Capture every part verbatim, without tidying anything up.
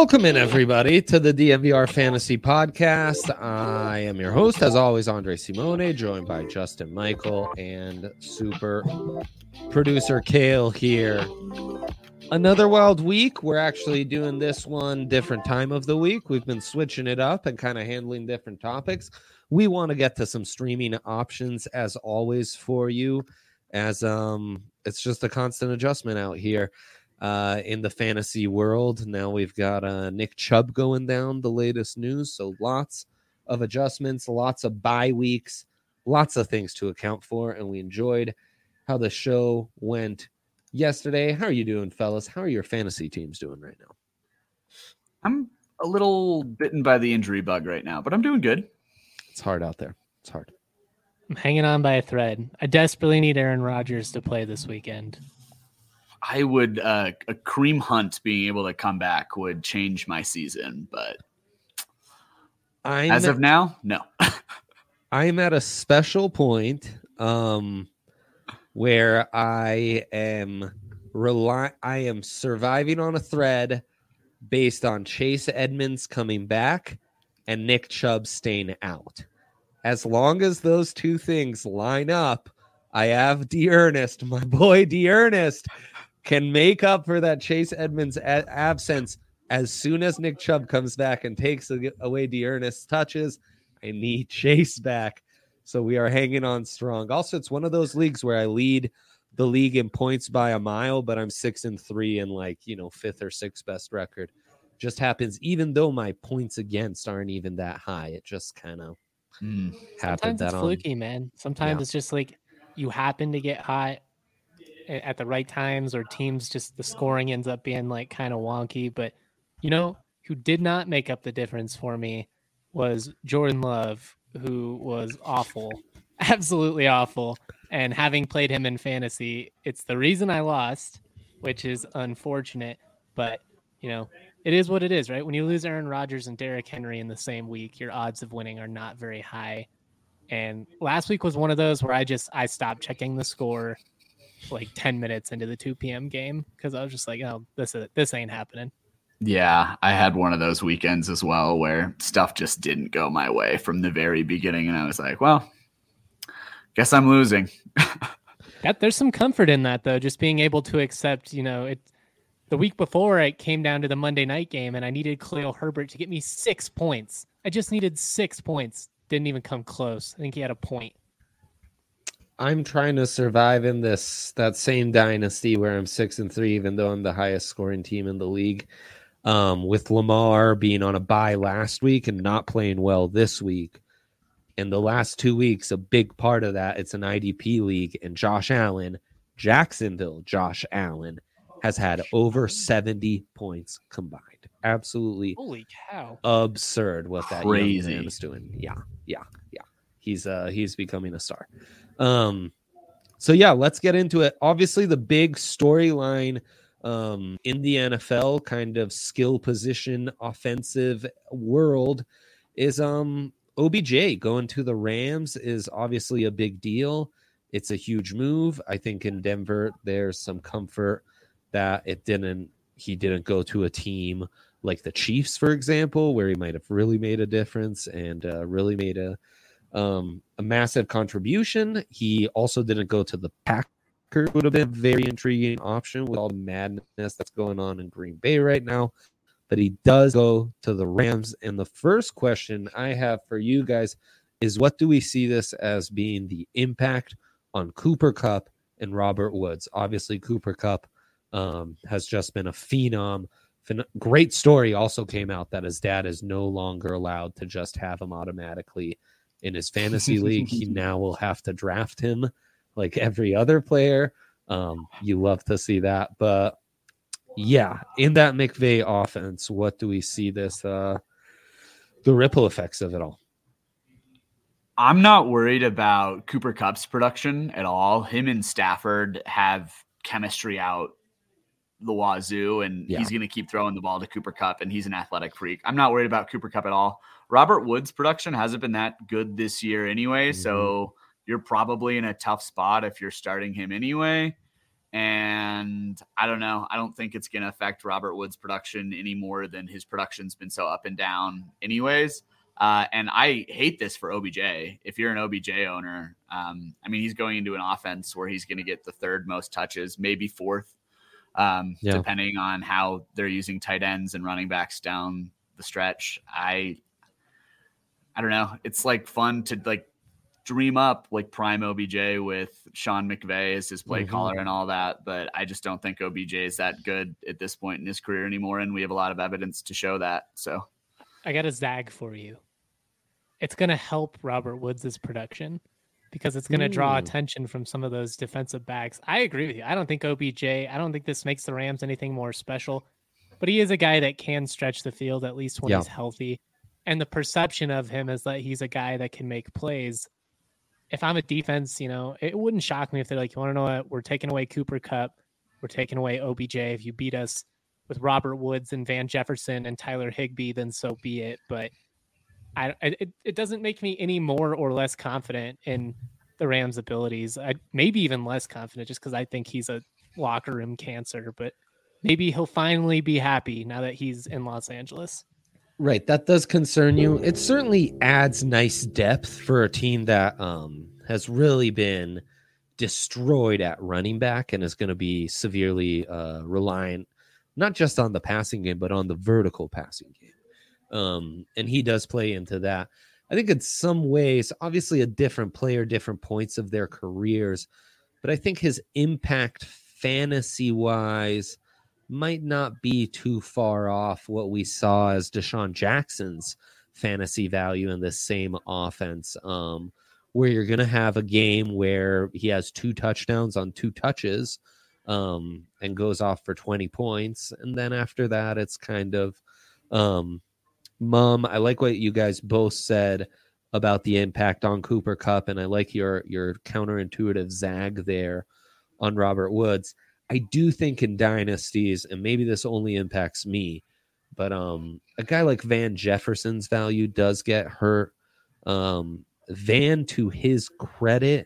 Welcome in, everybody, to the D M V R Fantasy Podcast. I am your host, as always, Andre Simone, joined by Justin Michael and super producer Kale here. Another wild week. We're actually doing this one different time of the week. We've been switching it up and kind of handling different topics. We want to get to some streaming options, as always, for you, as um, it's just a constant adjustment out here. Uh, in the fantasy world. Now we've got uh, Nick Chubb going down, the latest news. So lots of adjustments, lots of bye weeks, lots of things to account for. And we enjoyed how the show went yesterday. How are you doing, fellas? How are your fantasy teams doing right now? I'm a little bitten by the injury bug right now, but I'm doing good. It's hard out there. It's hard. I'm hanging on by a thread. I desperately need Aaron Rodgers to play this weekend. I would, uh, a Kareem Hunt being able to come back would change my season, but I'm, as of now, no. I'm at a special point um, where I am rely. I am surviving on a thread based on Chase Edmonds coming back and Nick Chubb staying out. As long as those two things line up, I have D'Ernest, my boy D'Ernest, can make up for that Chase Edmonds a- absence as soon as Nick Chubb comes back and takes away D'Ernest's touches. I need Chase back. So we are hanging on strong. Also, it's one of those leagues where I lead the league in points by a mile, but I'm six and three and like, you know, fifth or sixth best record. Just happens, even though my points against aren't even that high. It just kind of mm. happened. Sometimes it's that fluky, on. man. Sometimes yeah. It's just like you happen to get hot at the right times, or teams just the scoring ends up being like kind of wonky. But you know who did not make up the difference for me was Jordan Love, who was awful, absolutely awful. And having played him in fantasy, it's the reason I lost, which is unfortunate. But you know, it is what it is, right? When you lose Aaron Rodgers and Derrick Henry in the same week, your odds of winning are not very high. And last week was one of those where I just I stopped checking the score like ten minutes into the two p.m. game because I was just like, oh, this is this ain't happening. Yeah, I had one of those weekends as well where stuff just didn't go my way from the very beginning, and I was like, well, guess I'm losing. That, there's some comfort in that, though, just being able to accept, you know, it. The week before, it came down to the Monday night game, and I needed Khalil Herbert to get me six points. I just needed six points. Didn't even come close. I think he had a point. I'm trying to survive in this that same dynasty where I'm six and three, even though I'm the highest scoring team in the league. Um, with Lamar being on a bye last week and not playing well this week, and the last two weeks, a big part of that, it's an I D P league, and Josh Allen, Jacksonville, Josh Allen has had over seventy points combined. Absolutely, holy cow, absurd what that crazy young man is doing. Yeah, yeah, yeah. He's uh he's becoming a star. Um, so yeah, let's get into it. Obviously, the big storyline um, in the N F L kind of skill position offensive world is um O B J going to the Rams is obviously a big deal. It's a huge move. I think in Denver, there's some comfort that it didn't, he didn't go to a team like the Chiefs, for example, where he might have really made a difference and uh, really made a, Um, a massive contribution. He also didn't go to the Packers. Would have been a very intriguing option with all the madness that's going on in Green Bay right now. But he does go to the Rams. And the first question I have for you guys is, what do we see this as being the impact on Cooper Kupp and Robert Woods? Obviously, Cooper Kupp um, has just been a phenom. Phen- great story also came out that his dad is no longer allowed to just have him automatically in his fantasy league. He now will have to draft him like every other player. Um, you love to see that. But yeah, in that McVay offense, what do we see this, uh, the ripple effects of it all? I'm not worried about Cooper Kupp's production at all. Him and Stafford have chemistry out the wazoo, and yeah. he's going to keep throwing the ball to Cooper Kupp, and he's an athletic freak. I'm not worried about Cooper Kupp at all. Robert Woods' production hasn't been that good this year anyway, mm-hmm. so you're probably in a tough spot if you're starting him anyway. And I don't know. I don't think it's going to affect Robert Woods' production any more than his production's been so up and down anyways. Uh, and I hate this for O B J. If you're an O B J owner, um, I mean, he's going into an offense where he's going to get the third most touches, maybe fourth, um, yeah. depending on how they're using tight ends and running backs down the stretch. I, I don't know. It's like fun to like dream up like prime O B J with Sean McVay as his play mm-hmm. caller and all that. But I just don't think O B J is that good at this point in his career anymore. And we have a lot of evidence to show that. So I got a zag for you. It's going to help Robert Woods' production because it's going to draw attention from some of those defensive backs. I agree with you. I don't think O B J, I don't think this makes the Rams anything more special, but he is a guy that can stretch the field at least when yeah. he's healthy. And the perception of him is that he's a guy that can make plays. If I'm a defense, you know, it wouldn't shock me if they're like, you want to know what? We're taking away Cooper Kupp. We're taking away O B J. If you beat us with Robert Woods and Van Jefferson and Tyler Higbee, then so be it. But I, it, it doesn't make me any more or less confident in the Rams' abilities. I maybe even less confident just because I think he's a locker room cancer. But maybe he'll finally be happy now that he's in Los Angeles. Right. That does concern you. It certainly adds nice depth for a team that um, has really been destroyed at running back and is going to be severely uh, reliant not just on the passing game, but on the vertical passing game. Um, and he does play into that. I think in some ways, obviously a different player, different points of their careers, but I think his impact fantasy-wise might not be too far off what we saw as Deshaun Jackson's fantasy value in this same offense, um, where you're going to have a game where he has two touchdowns on two touches um, and goes off for twenty points. And then after that, it's kind of, um, Mom, I like what you guys both said about the impact on Cooper Kupp, and I like your your counterintuitive zag there on Robert Woods. I do think in dynasties, and maybe this only impacts me, but um, a guy like Van Jefferson's value does get hurt. Um, Van, to his credit,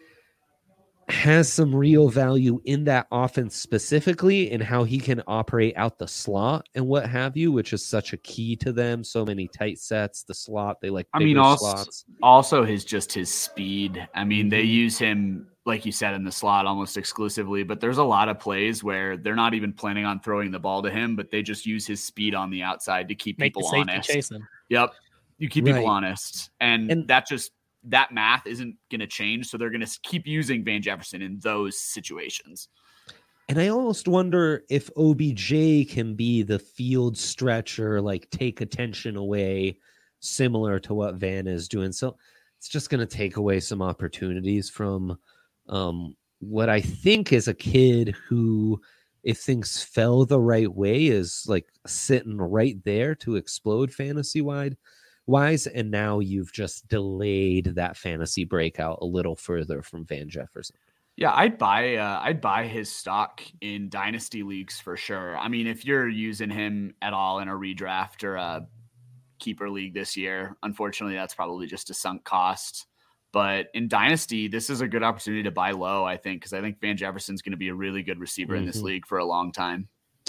has some real value in that offense specifically in how he can operate out the slot and what have you, which is such a key to them. So many tight sets, the slot, they like bigger I mean, also, slots. Also his just his speed. I mean, they use him, like you said, in the slot almost exclusively, but there's a lot of plays where they're not even planning on throwing the ball to him, but they just use his speed on the outside to keep Make people the honest. Chase him. Yep. You keep right. people honest. And, and that just, that math isn't going to change. So they're going to keep using Van Jefferson in those situations. And I almost wonder if O B J can be the field stretcher, like take attention away, similar to what Van is doing. So it's just going to take away some opportunities from um, what I think is a kid who, if things fell the right way, is like sitting right there to explode fantasy wide. Wise, and now you've just delayed that fantasy breakout a little further from Van Jefferson. Yeah, I'd buy uh, I'd buy his stock in dynasty leagues for sure. I mean, if you're using him at all in a redraft or a keeper league this year, unfortunately, that's probably just a sunk cost. But in dynasty, this is a good opportunity to buy low, I think, because I think Van Jefferson's going to be a really good receiver mm-hmm. in this league for a long time.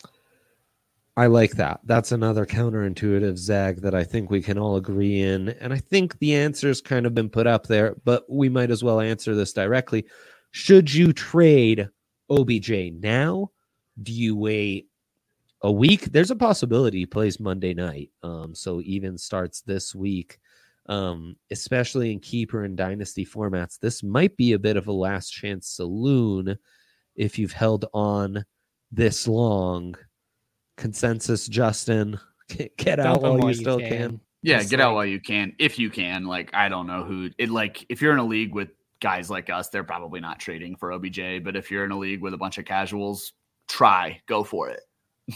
I like that. That's another counterintuitive zag that I think we can all agree in. And I think the answer's kind of been put up there, but we might as well answer this directly. Should you trade O B J now? Do you wait a week? There's a possibility he plays Monday night. Um, so even starts this week, um, especially in keeper and dynasty formats. This might be a bit of a last chance saloon if you've held on this long. Consensus, Justin, get out while, while you still can. can. Yeah, Just get like, out while you can, if you can. Like, I don't know who it like. If you're in a league with guys like us, they're probably not trading for O B J. But if you're in a league with a bunch of casuals, try, go for it.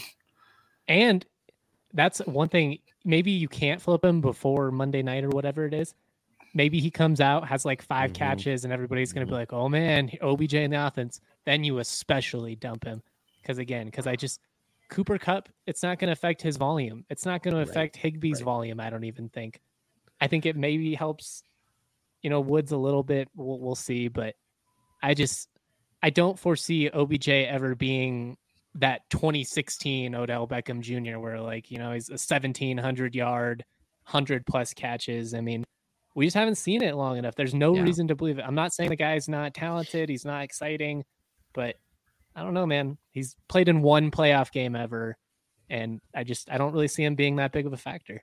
And that's one thing. Maybe you can't flip him before Monday night or whatever it is. Maybe he comes out, has like five mm-hmm. catches, and everybody's going to mm-hmm. be like, "Oh man, O B J in the offense." Then you especially dump him because again, because I just. Cooper Kupp, it's not going to affect his volume. It's not going to affect right. Higbee's right. volume, I don't even think. I think it maybe helps, you know, Woods a little bit. We'll, we'll see. But I just, I don't foresee O B J ever being that twenty sixteen Odell Beckham Junior where, like, you know, he's a seventeen hundred yard, one hundred plus catches. I mean, we just haven't seen it long enough. There's no yeah. reason to believe it. I'm not saying the guy's not talented. He's not exciting, but I don't know, man. He's played in one playoff game ever. And I just, I don't really see him being that big of a factor.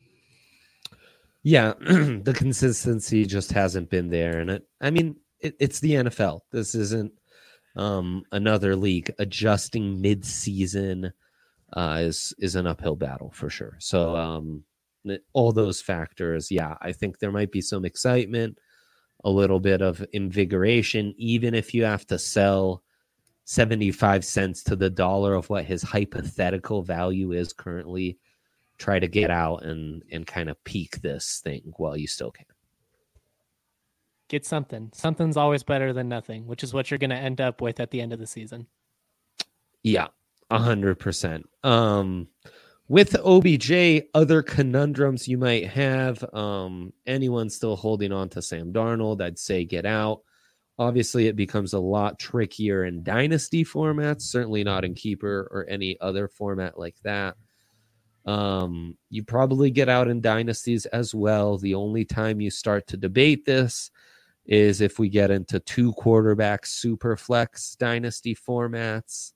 Yeah. The consistency just hasn't been there. And it, I mean, it, it's the N F L. This isn't um, another league. Adjusting mid-season uh, is, is an uphill battle for sure. So, um, all those factors, yeah, I think there might be some excitement, a little bit of invigoration, even if you have to sell seventy-five cents to the dollar of what his hypothetical value is currently. Try to get out and, and kind of peak this thing while you still can. Get something. Something's always better than nothing, which is what you're going to end up with at the end of the season. Yeah, one hundred percent. Um, With O B J, other conundrums you might have, um, anyone still holding on to Sam Darnold, I'd say get out. Obviously, it becomes a lot trickier in dynasty formats, certainly not in keeper or any other format like that. Um, you probably get out in dynasties as well. The only time you start to debate this is if we get into two quarterback super flex dynasty formats.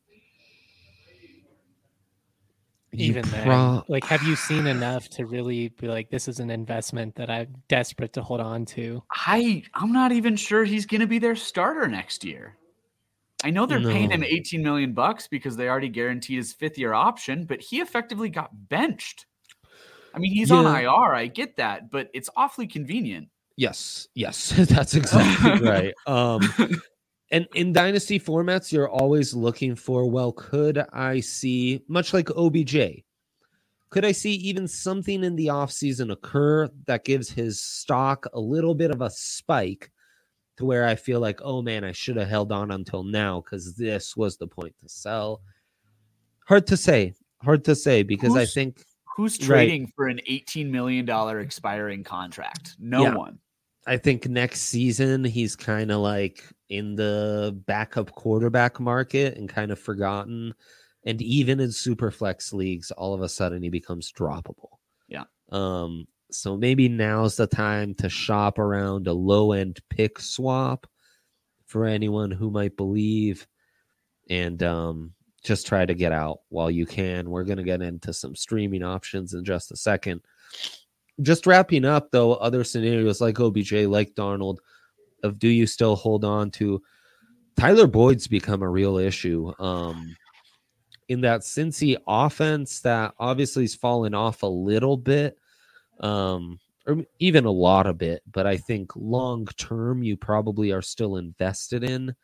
Even pro- then, like, have you seen enough to really be like, this is an investment that I'm desperate to hold on to? I, I'm not even sure he's going to be their starter next year. I know they're no. paying him eighteen million bucks because they already guaranteed his fifth year option, but he effectively got benched. I mean, he's yeah. on I R. I get that, but it's awfully convenient. Yes. Yes. That's exactly right. Um, And in dynasty formats, you're always looking for, well, could I see, much like O B J, could I see even something in the offseason occur that gives his stock a little bit of a spike to where I feel like, oh, man, I should have held on until now because this was the point to sell. Hard to say. Hard to say because who's, I think. Who's trading right. for an eighteen million dollars expiring contract? No yeah. one. I think next season he's kind of like in the backup quarterback market and kind of forgotten. And even in super flex leagues, all of a sudden he becomes droppable. Yeah. Um. So maybe now's the time to shop around a low end pick swap for anyone who might believe, and um, just try to get out while you can. We're going to get into some streaming options in just a second. Just wrapping up, though, other scenarios like O B J, like Darnold, of do you still hold on to? Tyler Boyd's become a real issue um, in that Cincy offense that obviously has fallen off a little bit, um, or even a lot of bit, but I think long term you probably are still invested in.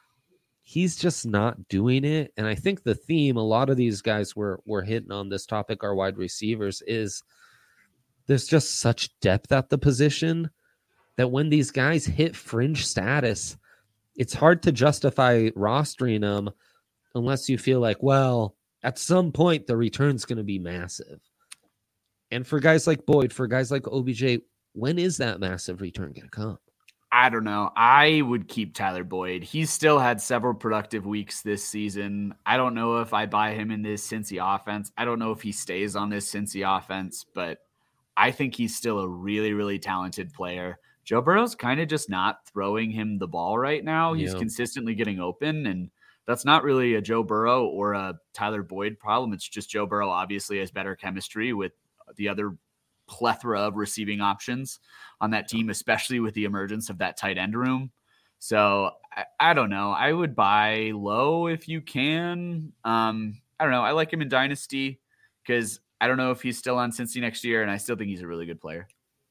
He's just not doing it. And I think the theme, a lot of these guys were, were hitting on this topic, our wide receivers, is there's just such depth at the position that when these guys hit fringe status, it's hard to justify rostering them unless you feel like, well, at some point the return's going to be massive. And for guys like Boyd, for guys like O B J, when is that massive return going to come? I don't know. I would keep Tyler Boyd. He's still had several productive weeks this season. I don't know if I buy him in this Cincy offense. I don't know if he stays on this Cincy offense, but I think he's still a really, really talented player. Joe Burrow's kind of just not throwing him the ball right now. He's yeah. consistently getting open, and that's not really a Joe Burrow or a Tyler Boyd problem. It's just Joe Burrow obviously has better chemistry with the other plethora of receiving options on that team, especially with the emergence of that tight end room. So I, I don't know. I would buy low if you can. Um, I don't know. I like him in Dynasty because I don't know if he's still on Cincy next year, and I still think he's a really good player.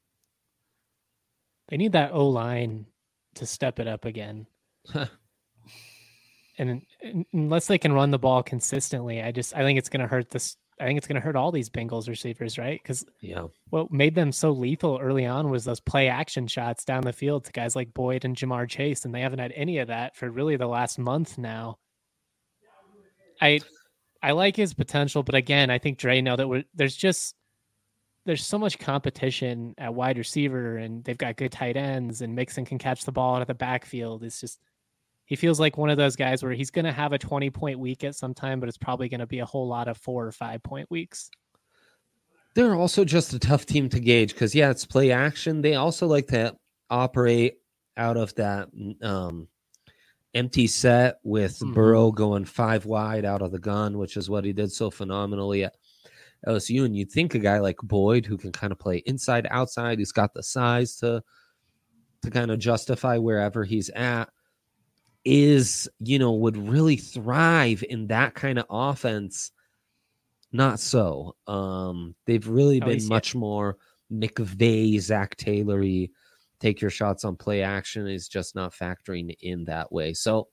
They need that O-line to step it up again. and, and unless they can run the ball consistently, I just I think it's going to hurt this. I think it's going to hurt all these Bengals receivers, right? Because yeah, what made them so lethal early on was those play action shots down the field to guys like Boyd and Jamar Chase, and they haven't had any of that for really the last month now. I I like his potential, but again, I think Dre know that we're, there's just there's so much competition at wide receiver, and they've got good tight ends, and Mixon can catch the ball out of the backfield. It's just he feels like one of those guys where he's going to have a twenty point week at some time, but it's probably going to be a whole lot of four or five point weeks. They're also just a tough team to gauge because, yeah, it's play action. They also like to operate out of that um, empty set with mm-hmm. Burrow going five wide out of the gun, which is what he did so phenomenally at L S U. And you'd think a guy like Boyd, who can kind of play inside, outside, he's got the size to to kind of justify wherever he's at, is, you know, would really thrive in that kind of offense. Not so. Um, they've really been oh, much more McVay, Zach Taylory, take your shots on play action is just not factoring in that way. So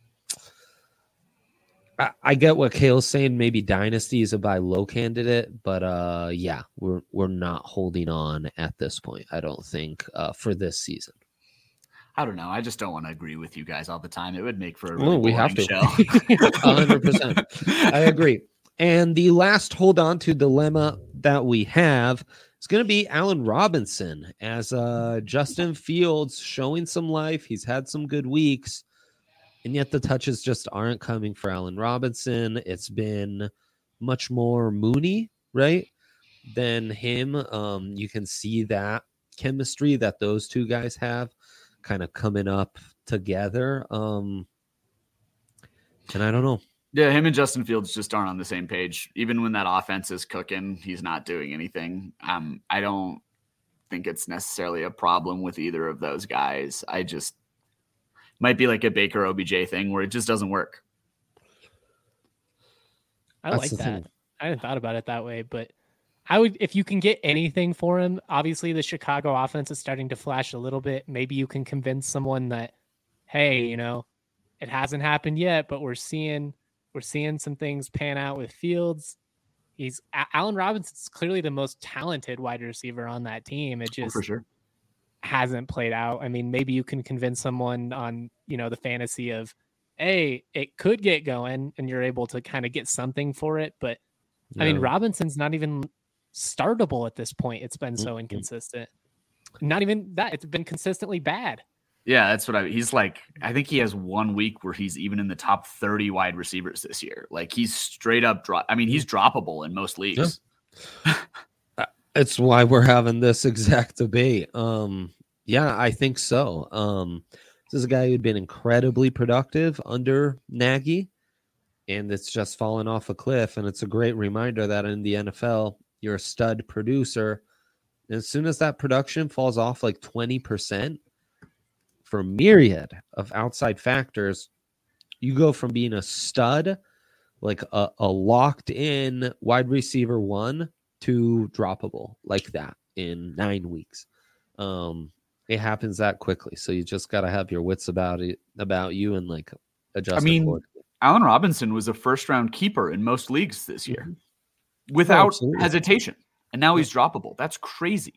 I, I get what Kale's saying. Maybe Dynasty is a buy low candidate, but uh, yeah, we're we're not holding on at this point, I don't think, uh, for this season. I don't know. I just don't want to agree with you guys all the time. It would make for a really oh, we have to. show. one hundred percent. I agree. And the last hold on to dilemma that we have is going to be Allen Robinson, as uh, Justin Fields showing some life. He's had some good weeks, and yet the touches just aren't coming for Allen Robinson. It's been much more Mooney, right, than him. Um, you can see that chemistry that those two guys have kind of coming up together. Um, and I don't know. Yeah, him and Justin Fields just aren't on the same page. Even when that offense is cooking, he's not doing anything. Um, I don't think it's necessarily a problem with either of those guys. I just might be like a Baker O B J thing where it just doesn't work. I That's like that. Thing. I hadn't thought about it that way, but I would, if you can get anything for him, obviously the Chicago offense is starting to flash a little bit. Maybe you can convince someone that, hey, you know, it hasn't happened yet, but we're seeing We're seeing some things pan out with Fields. He's Allen Robinson's clearly the most talented wide receiver on that team. It just oh, for sure. hasn't played out. I mean, maybe you can convince someone on, you know, the fantasy of, hey, it could get going and you're able to kind of get something for it. But no. I mean, Robinson's not even startable at this point. It's been so inconsistent. Not even that. It's been consistently bad. Yeah, that's what I he's like. I think he has one week where he's even in the top thirty wide receivers this year. Like he's straight up drop. I mean, he's droppable in most leagues. Yeah. It's why we're having this exact debate. Um, yeah, I think so. Um, this is a guy who'd been incredibly productive under Nagy, and it's just fallen off a cliff. And it's a great reminder that in the N F L, you're a stud producer. And as soon as that production falls off like twenty percent, for a myriad of outside factors, you go from being a stud, like a, a locked in wide receiver one, to droppable like that in nine weeks. Um, it happens that quickly. So you just got to have your wits about it, about you, and like adjust. I mean, Allen Robinson was a first round keeper in most leagues this year mm-hmm. without oh, hesitation. And now he's droppable. That's crazy.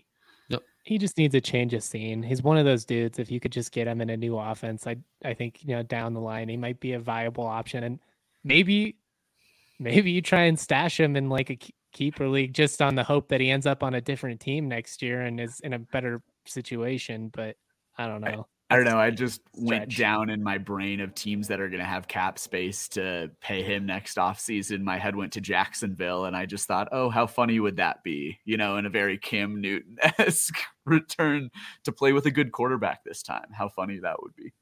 He just needs a change of scene. He's one of those dudes. If you could just get him in a new offense, I I think, you know, down the line, he might be a viable option. And maybe, maybe you try and stash him in like a keeper league just on the hope that he ends up on a different team next year and is in a better situation. But I don't know. I don't know. I just went down in my brain of teams that are going to have cap space to pay him next offseason. My head went to Jacksonville, and I just thought, oh, how funny would that be? You know, in a very Cam Newton-esque return to play with a good quarterback this time. How funny that would be.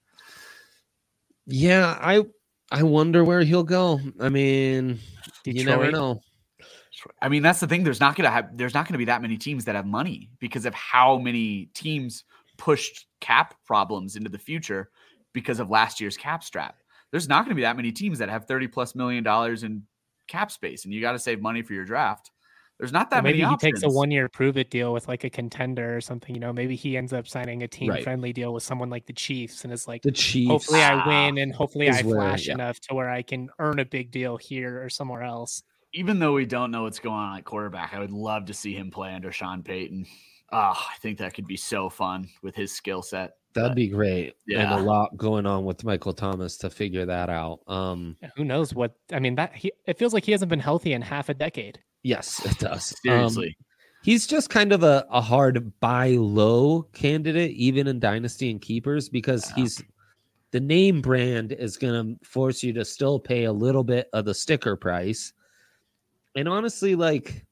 Yeah, I I wonder where he'll go. I mean, Detroit. You never know. I mean, that's the thing. There's not going to have there's not going to be that many teams that have money because of how many teams pushed cap problems into the future because of last year's cap strap. There's not going to be that many teams that have thirty plus million dollars in cap space, and you got to save money for your draft. There's not that well, maybe many he options. Takes a one year prove it deal with like a contender or something. You know, maybe he ends up signing a team right. friendly deal with someone like the Chiefs, and it's like, the Chiefs, hopefully I win and hopefully I where, flash yeah. enough to where I can earn a big deal here or somewhere else. Even though we don't know what's going on at quarterback, I would love to see him play under Sean Payton. Oh, I think that could be so fun with his skill set. That'd but, be great. Yeah. And a lot going on with Michael Thomas to figure that out. Um, yeah, who knows what, I mean, that he, it feels like he hasn't been healthy in half a decade. Yes, it does. Seriously. Um, he's just kind of a, a hard buy low candidate, even in Dynasty and Keepers, because yeah. he's the name brand is going to force you to still pay a little bit of the sticker price. And honestly, like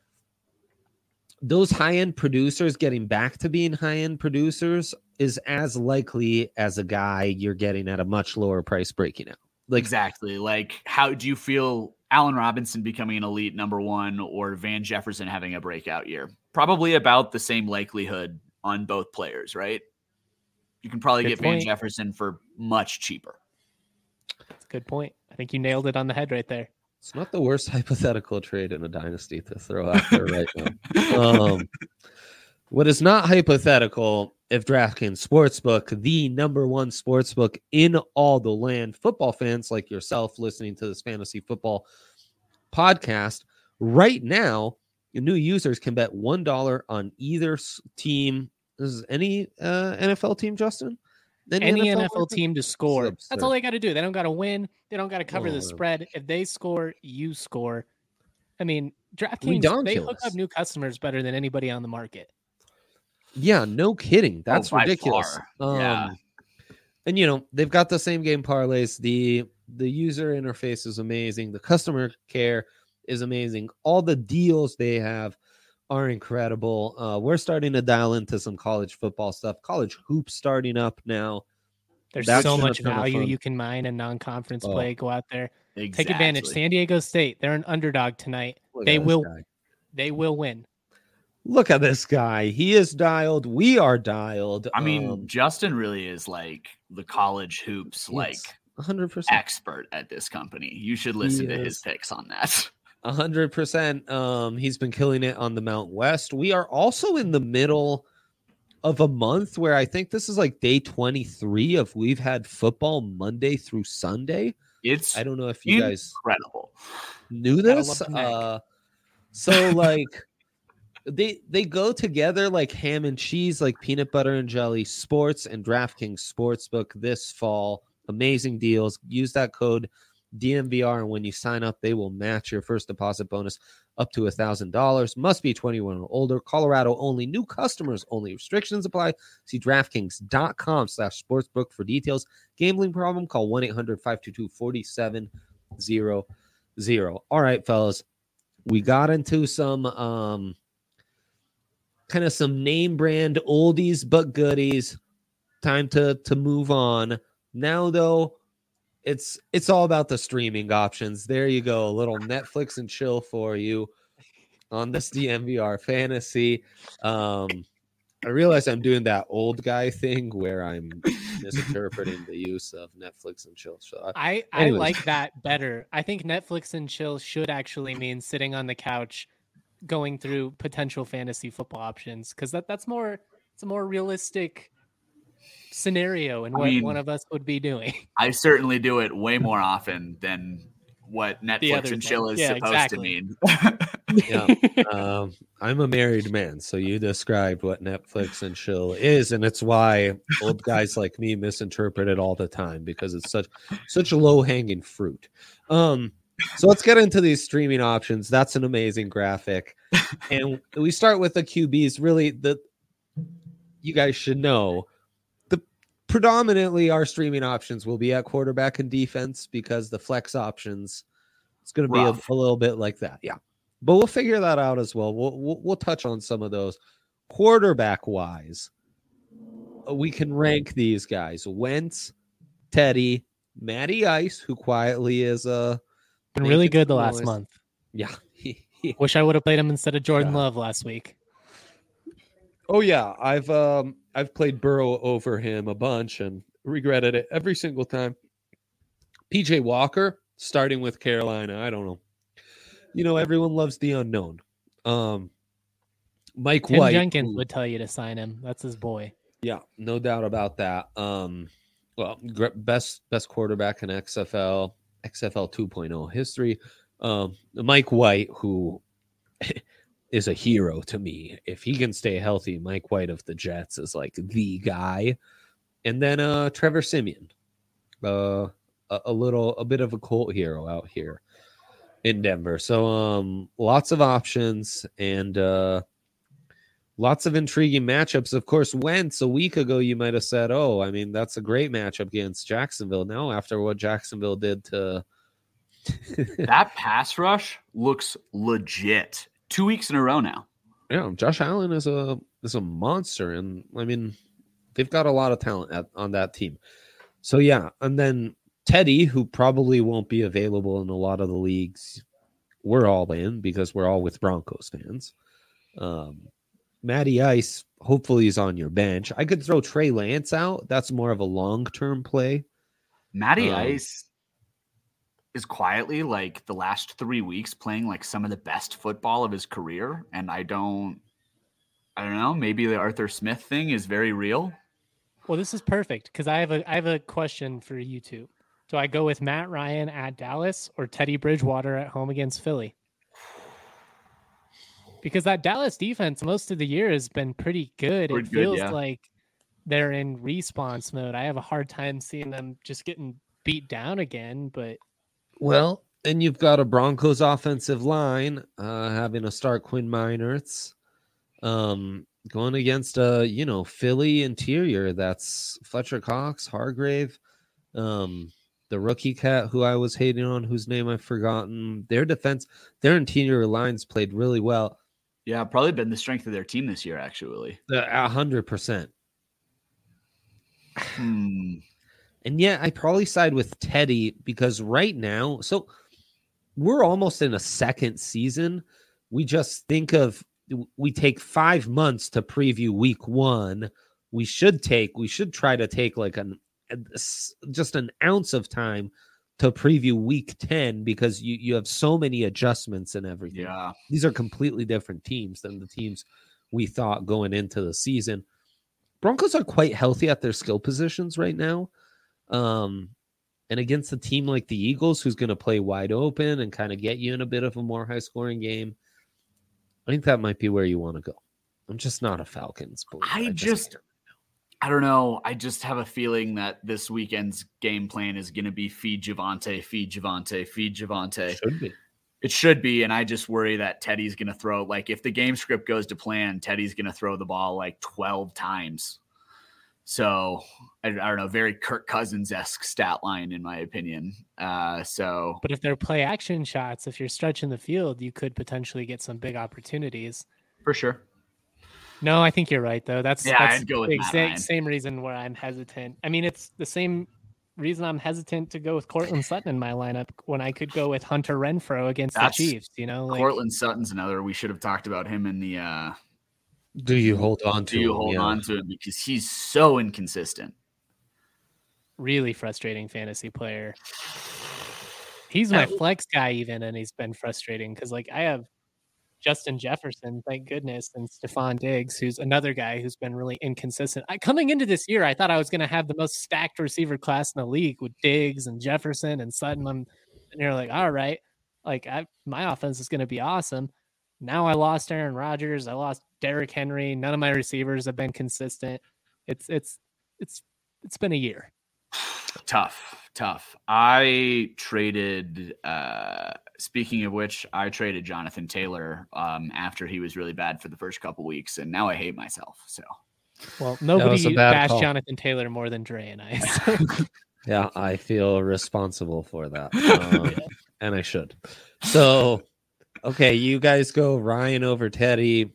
those high-end producers getting back to being high-end producers is as likely as a guy you're getting at a much lower price breaking out. Like exactly. Like, how do you feel Allen Robinson becoming an elite number one or Van Jefferson having a breakout year? Probably about the same likelihood on both players, right? You can probably good get point. Van Jefferson for much cheaper. That's a good point. I think you nailed it on the head right there. It's not the worst hypothetical trade in a dynasty to throw out there right now. Um, what is not hypothetical if DraftKings Sportsbook, the number one sportsbook in all the land, football fans like yourself listening to this fantasy football podcast, right now, new users can bet one dollar on either team. This is any uh, N F L team, Justin? Any, any N F L, N F L team to score. That's all they got to do. They don't got to win. They don't got to cover oh, the spread. If they score, you score. I mean, DraftKings, they hook up new customers better than anybody on the market. Yeah, no kidding. That's oh, ridiculous. Um, yeah. And, you know, they've got the same game parlays. The the user interface is amazing. The customer care is amazing. All the deals they have are incredible. Uh, we're starting to dial into some college football stuff. College hoops starting up now. There's That's so much value you can mine in non-conference oh, play. Go out there. Exactly. Take advantage. San Diego State, they're an underdog tonight. Look they will guy. They will win. Look at this guy. He is dialed. We are dialed. I mean, um, Justin really is like the college hoops like one hundred percent expert at this company. You should listen he to is. his picks on that. A hundred percent. Um, he's been killing it on the Mountain West. We are also in the middle of a month where I think this is like day twenty-three of we've had football Monday through Sunday. It's I don't know if you guys incredible knew this. Uh, so like they they go together like ham and cheese, like peanut butter and jelly. Sports and DraftKings Sportsbook this fall. Amazing deals. Use that code D M V R, and when you sign up, they will match your first deposit bonus up to one thousand dollars. Must be twenty-one or older. Colorado only. New customers only. Restrictions apply. See DraftKings.com slash sportsbook for details. Gambling problem? Call one eight hundred five two two four seven zero zero. All right, fellas. We got into some um, kind of some name brand oldies but goodies. Time to, to move on. Now, though, It's it's all about the streaming options. There you go. A little Netflix and chill for you on this D M V R fantasy. Um, I realize I'm doing that old guy thing where I'm misinterpreting the use of Netflix and chill. So I, I like that better. I think Netflix and chill should actually mean sitting on the couch going through potential fantasy football options, because that, that's more it's a more realistic scenario and what I mean, one of us would be doing. I certainly do it way more often than what Netflix and chill is yeah, supposed exactly. to mean. yeah, um, I'm a married man, so you described what Netflix and chill is, and it's why old guys like me misinterpret it all the time, because it's such such a low hanging fruit. Um, so let's get into these streaming options. That's an amazing graphic, and we start with the Q Bs. Really, the you guys should know. Predominantly, our streaming options will be at quarterback and defense, because the flex options, it's going to be a, a little bit like that. Yeah. But we'll figure that out as well. We'll, we'll, we'll touch on some of those. Quarterback wise, we can rank these guys: Wentz, Teddy, Matty Ice, who quietly is uh, been really good the last month. Yeah. Wish I would have played him instead of Jordan yeah. Love last week. Oh yeah, I've um I've played Burrow over him a bunch and regretted it every single time. P J Walker starting with Carolina. I don't know. You know, everyone loves the unknown. Um, Mike Tim White Jenkins who, would tell you to sign him. That's his boy. Yeah, no doubt about that. Um, well, best best quarterback in X F L, X F L two point oh history. Um, Mike White, who is a hero to me. If he can stay healthy, Mike White of the Jets is like the guy. And then uh, Trevor Siemian, uh, a, a little, a bit of a cult hero out here in Denver. So um, lots of options, and uh, lots of intriguing matchups. Of course, Wentz a week ago, you might have said, oh, I mean, that's a great matchup against Jacksonville. Now, after what Jacksonville did to that pass rush looks legit. Two weeks in a row now. Yeah, Josh Allen is a is a monster, and I mean, they've got a lot of talent at, on that team. So yeah, and then Teddy, who probably won't be available in a lot of the leagues, we're all in because we're all with Broncos fans. Um, Matty Ice, hopefully, is on your bench. I could throw Trey Lance out. That's more of a long term play. Matty um, Ice is quietly, like, the last three weeks playing like some of the best football of his career. And I don't, I don't know, maybe the Arthur Smith thing is very real. Well, this is perfect because I have a, I have a question for you two. Do I go with Matt Ryan at Dallas or Teddy Bridgewater at home against Philly? Because that Dallas defense most of the year has been pretty good. Pretty it feels good, yeah. like they're in response mode. I have a hard time seeing them just getting beat down again, but well, and you've got a Broncos offensive line uh, having to start Quinn Meinerz, um, going against a you know Philly interior that's Fletcher Cox, Hargrave, um, the rookie cat who I was hating on, whose name I've forgotten. Their defense, their interior lines played really well. Yeah, probably been the strength of their team this year, actually. A hundred percent. Hmm. And yeah, I probably side with Teddy because right now, so we're almost in a second season. We just think of, we take five months to preview week one. We should take, we should try to take like an, just an ounce of time to preview week ten because you, you have so many adjustments and everything. Yeah. These are completely different teams than the teams we thought going into the season. Broncos are quite healthy at their skill positions right now. Um, and against a team like the Eagles, who's going to play wide open and kind of get you in a bit of a more high scoring game, I think that might be where you want to go. I'm just not a Falcons believer. I, I just, just I don't know. I just have a feeling that this weekend's game plan is going to be feed Javonte, feed Javonte, feed Javonte. Should be. It should be. And I just worry that Teddy's going to throw, like, if the game script goes to plan, Teddy's going to throw the ball like twelve times. So I, I don't know, very Kirk Cousins-esque stat line, in my opinion. Uh, so, but if they're play action shots, if you're stretching the field, you could potentially get some big opportunities. For sure. No, I think you're right, though. That's, yeah, that's I'd go with the Matt same, Ryan. same reason where I'm hesitant. I mean, it's the same reason I'm hesitant to go with Cortland Sutton in my lineup when I could go with Hunter Renfrow against That's, the Chiefs. You know, like, Cortland Sutton's another. We should have talked about him in the. Uh, do you hold on to? Do you him? hold yeah. on to him because he's so inconsistent? Really frustrating fantasy player. He's my flex guy, even, and he's been frustrating because, like, I have Justin Jefferson, thank goodness, and Stephon Diggs, who's another guy who's been really inconsistent. I, coming into this year, I thought I was going to have the most stacked receiver class in the league with Diggs and Jefferson and Sutton. I'm, and you're like, all right, like I, my offense is going to be awesome. Now I lost Aaron Rodgers. I lost Derrick Henry. None of my receivers have been consistent. It's it's it's it's been a year. Tough, tough. I traded. Uh, speaking of which, I traded Jonathan Taylor um, after he was really bad for the first couple weeks, and now I hate myself. So, well, nobody bashed Jonathan Taylor more than Dre and I. So. Yeah, I feel responsible for that, um, yeah. and I should. So, okay, you guys go Ryan over Teddy.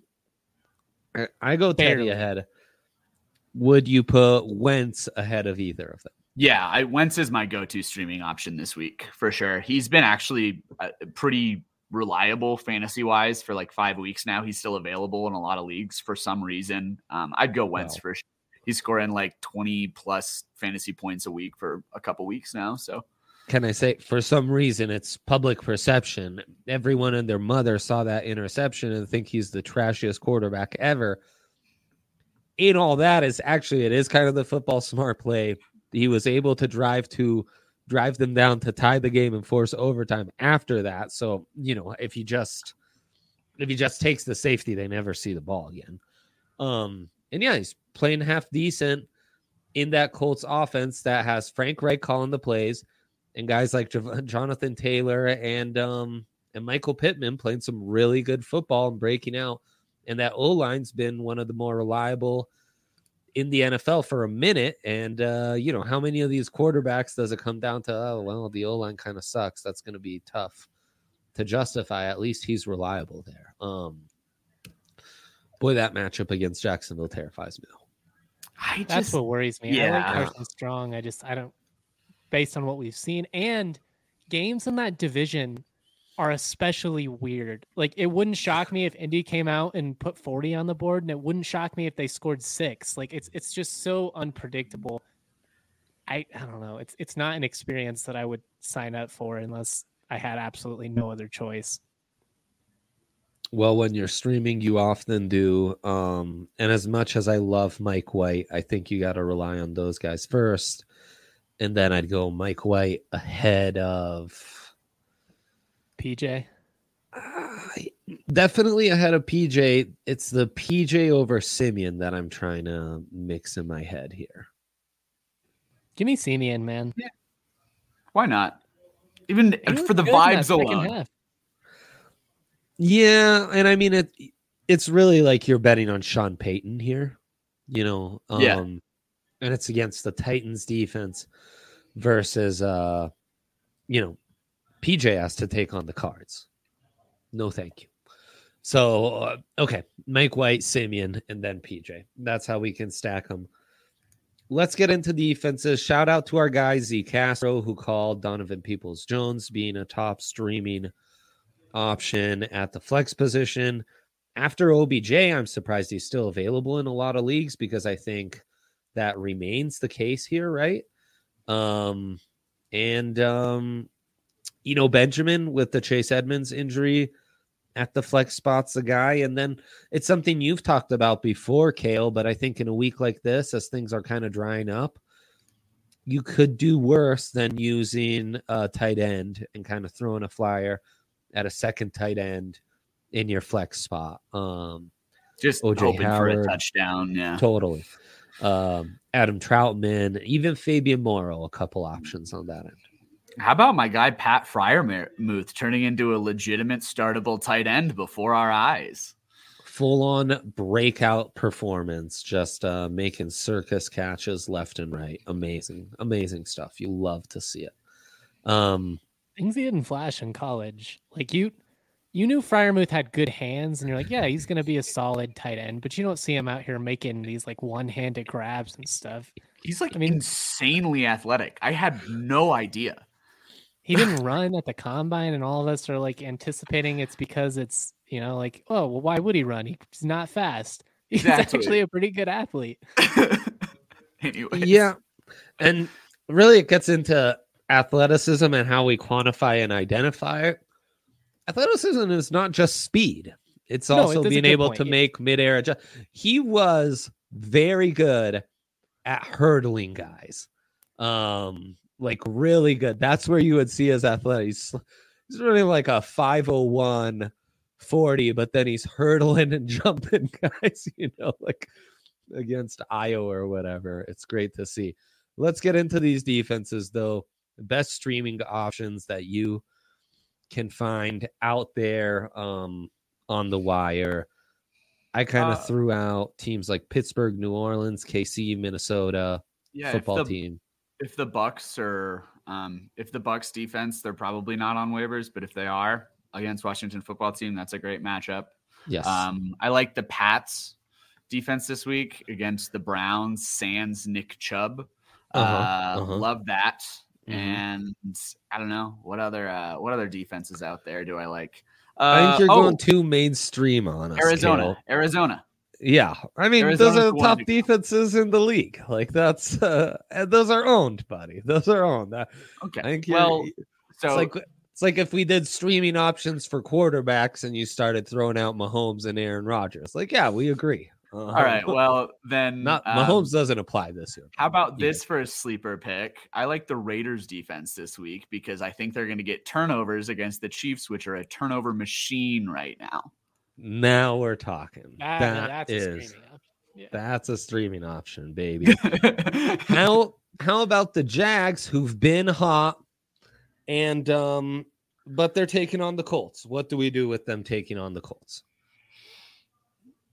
I go Teddy Barely. ahead. Would you put Wentz ahead of either of them? Yeah, I, Wentz is my go-to streaming option this week for sure. He's been actually uh, pretty reliable fantasy-wise for like five weeks now. He's still available in a lot of leagues for some reason. Um, I'd go Wentz wow. for sure. He's scoring like twenty plus fantasy points a week for a couple weeks now. So, can I say, for some reason, it's public perception. Everyone and their mother saw that interception and think he's the trashiest quarterback ever. In all that is actually, it is kind of the football smart play. He was able to drive to drive them down to tie the game and force overtime after that. So, you know, if he just if he just takes the safety, they never see the ball again. Um, and yeah, he's playing half decent in that Colts offense that has Frank Reich calling the plays and guys like J- Jonathan Taylor and um and Michael Pittman playing some really good football and breaking out. and that O-line's been one of the more reliable in the N F L for a minute. And, uh, you know, how many of these quarterbacks does it come down to, oh, well, the O-line kind of sucks. That's going to be tough to justify. At least he's reliable there. Um, boy, that matchup against Jacksonville terrifies me. I just, That's what worries me. Yeah. I like Carson Strong. I just, I don't, based on what we've seen, and games in that division are especially weird. Like, it wouldn't shock me if Indy came out and put forty on the board, and it wouldn't shock me if they scored six. Like, it's it's just so unpredictable. I I don't know. It's it's not an experience that I would sign up for unless I had absolutely no other choice. Well, when you're streaming, you often do. Um, and as much as I love Mike White, I think you got to rely on those guys first. And then I'd go Mike White ahead of P J. Uh, definitely ahead of P J. It's the P J over Simeon that I'm trying to mix in my head here. Give me Simeon, man. Yeah. Why not? Even for the vibes alone. Half. Yeah, and I mean it. It's really like you're betting on Sean Payton here, you know. Um, yeah. And it's against the Titans defense versus, uh, you know, P J has to take on the Cards. No, thank you. So, uh, okay, Mike White, Simeon, and then P J. That's how we can stack them. Let's get into defenses. Shout out to our guy, Z Castro, who called Donovan Peoples-Jones being a top streaming option at the flex position. After O B J, I'm surprised he's still available in a lot of leagues because I think that remains the case here, right? Um, and, um, you know, Benjamin with the Chase Edmonds injury at the flex spot's the guy. And then it's something you've talked about before, Kale, but I think in a week like this, as things are kind of drying up, you could do worse than using a tight end and kind of throwing a flyer at a second tight end in your flex spot. Um, Just O J hoping Howard, for a touchdown. Yeah, totally. Um, Adam Troutman, even Fabian Morrow, a couple options on that end. How about my guy Pat Freiermuth turning into a legitimate startable tight end before our eyes? Full-on breakout performance, just uh, making circus catches left and right. Amazing, amazing stuff. You love to see it. Um, Things he didn't flash in college. Like you, you knew Freiermuth had good hands, and you're like, yeah, he's going to be a solid tight end. But you don't see him out here making these like one-handed grabs and stuff. He's like, I mean, insanely athletic. I had no idea. He didn't run at the combine, and all of us are like anticipating it's because it's, you know, like, oh, well, why would he run? He's not fast. He's exactly. actually a pretty good athlete. Anyway, yeah, and really, it gets into athleticism and how we quantify and identify it. Athleticism is not just speed; it's no, also it being able point. to yeah. make midair adjust. He was very good at hurdling guys. Um. Like really good. That's where you would see his athletic. He's, he's running like a five oh one forty, but then he's hurdling and jumping guys, you know, like against Iowa or whatever. It's great to see. Let's get into these defenses, though. The best streaming options that you can find out there um, on the wire. I kind of uh, threw out teams like Pittsburgh, New Orleans, K C, Minnesota, yeah, football the- team. If the Bucks are, um, if the Bucks defense, they're probably not on waivers, but if they are against Washington football team, that's a great matchup. Yes. Um, I like the Pats defense this week against the Browns, sans Nick Chubb. Uh, uh-huh, uh-huh. Love that. Mm-hmm. And I don't know what other, uh, what other defenses out there do I like? Uh, I think you're oh, going too mainstream on us. Arizona, Kale. Arizona. Yeah, I mean, Arizona's those are the top to defenses in the league. Like that's uh, and those are owned, buddy. Those are owned. That, okay. I think well, so it's like it's like if we did streaming options for quarterbacks and you started throwing out Mahomes and Aaron Rodgers. Like, yeah, we agree. Uh, all right. Well, then not um, Mahomes doesn't apply this year. How about this for a sleeper pick? I like the Raiders defense this week because I think they're going to get turnovers against the Chiefs, which are a turnover machine right now. Now we're talking. That, that that's is, a streaming option. Yeah. That's a streaming option, baby. how how about the Jags, who've been hot, and um, but they're taking on the Colts? What do we do with them taking on the Colts?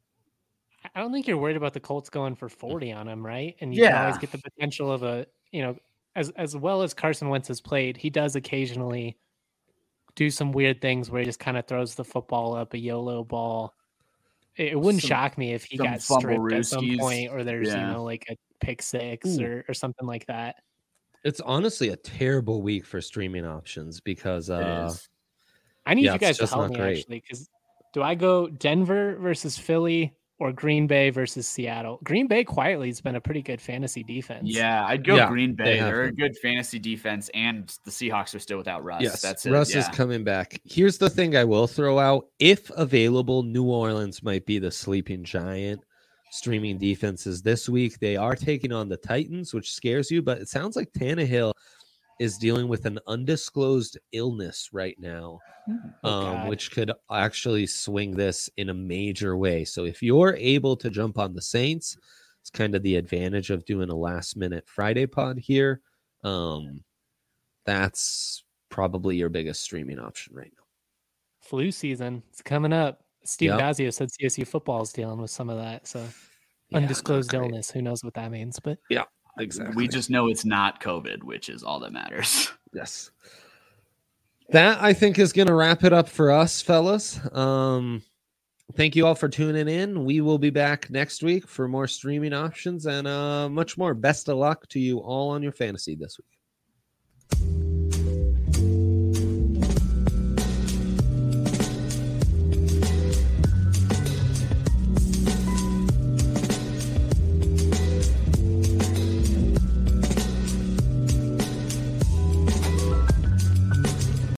I don't think you're worried about the Colts going for forty on him, right? And you yeah. can always get the potential of a, you know, as as well as Carson Wentz has played, he does occasionally do some weird things where he just kind of throws the football up, a YOLO ball. It, it wouldn't some, shock me if he got stripped at some point, or there's, yeah. you know, like a pick six or, or something like that. It's honestly a terrible week for streaming options because uh, I need yeah, you guys to help me great. actually, because do I go Denver versus Philly or Green Bay versus Seattle? Green Bay quietly has been a pretty good fantasy defense. Yeah, I'd go yeah, Green Bay. They They're a good fantasy defense, and the Seahawks are still without Russ. Yes, That's it. Russ yeah. is coming back. Here's the thing I will throw out. If available, New Orleans might be the sleeping giant streaming defenses this week. They are taking on the Titans, which scares you, but it sounds like Tannehill is dealing with an undisclosed illness right now, oh, um, which could actually swing this in a major way. So if you're able to jump on the Saints, it's kind of the advantage of doing a last minute Friday pod here. Um, that's probably your biggest streaming option right now. Flu season, it's coming up. Steve yep. Dazio said C S U football is dealing with some of that. So yeah, undisclosed illness, who knows what that means, but yeah. Exactly. We just know it's not COVID, which is all that matters. Yes. That, I think, is going to wrap it up for us, fellas. Um, thank you all for tuning in. We will be back next week for more streaming options and uh, much more. Best of luck to you all on your fantasy this week.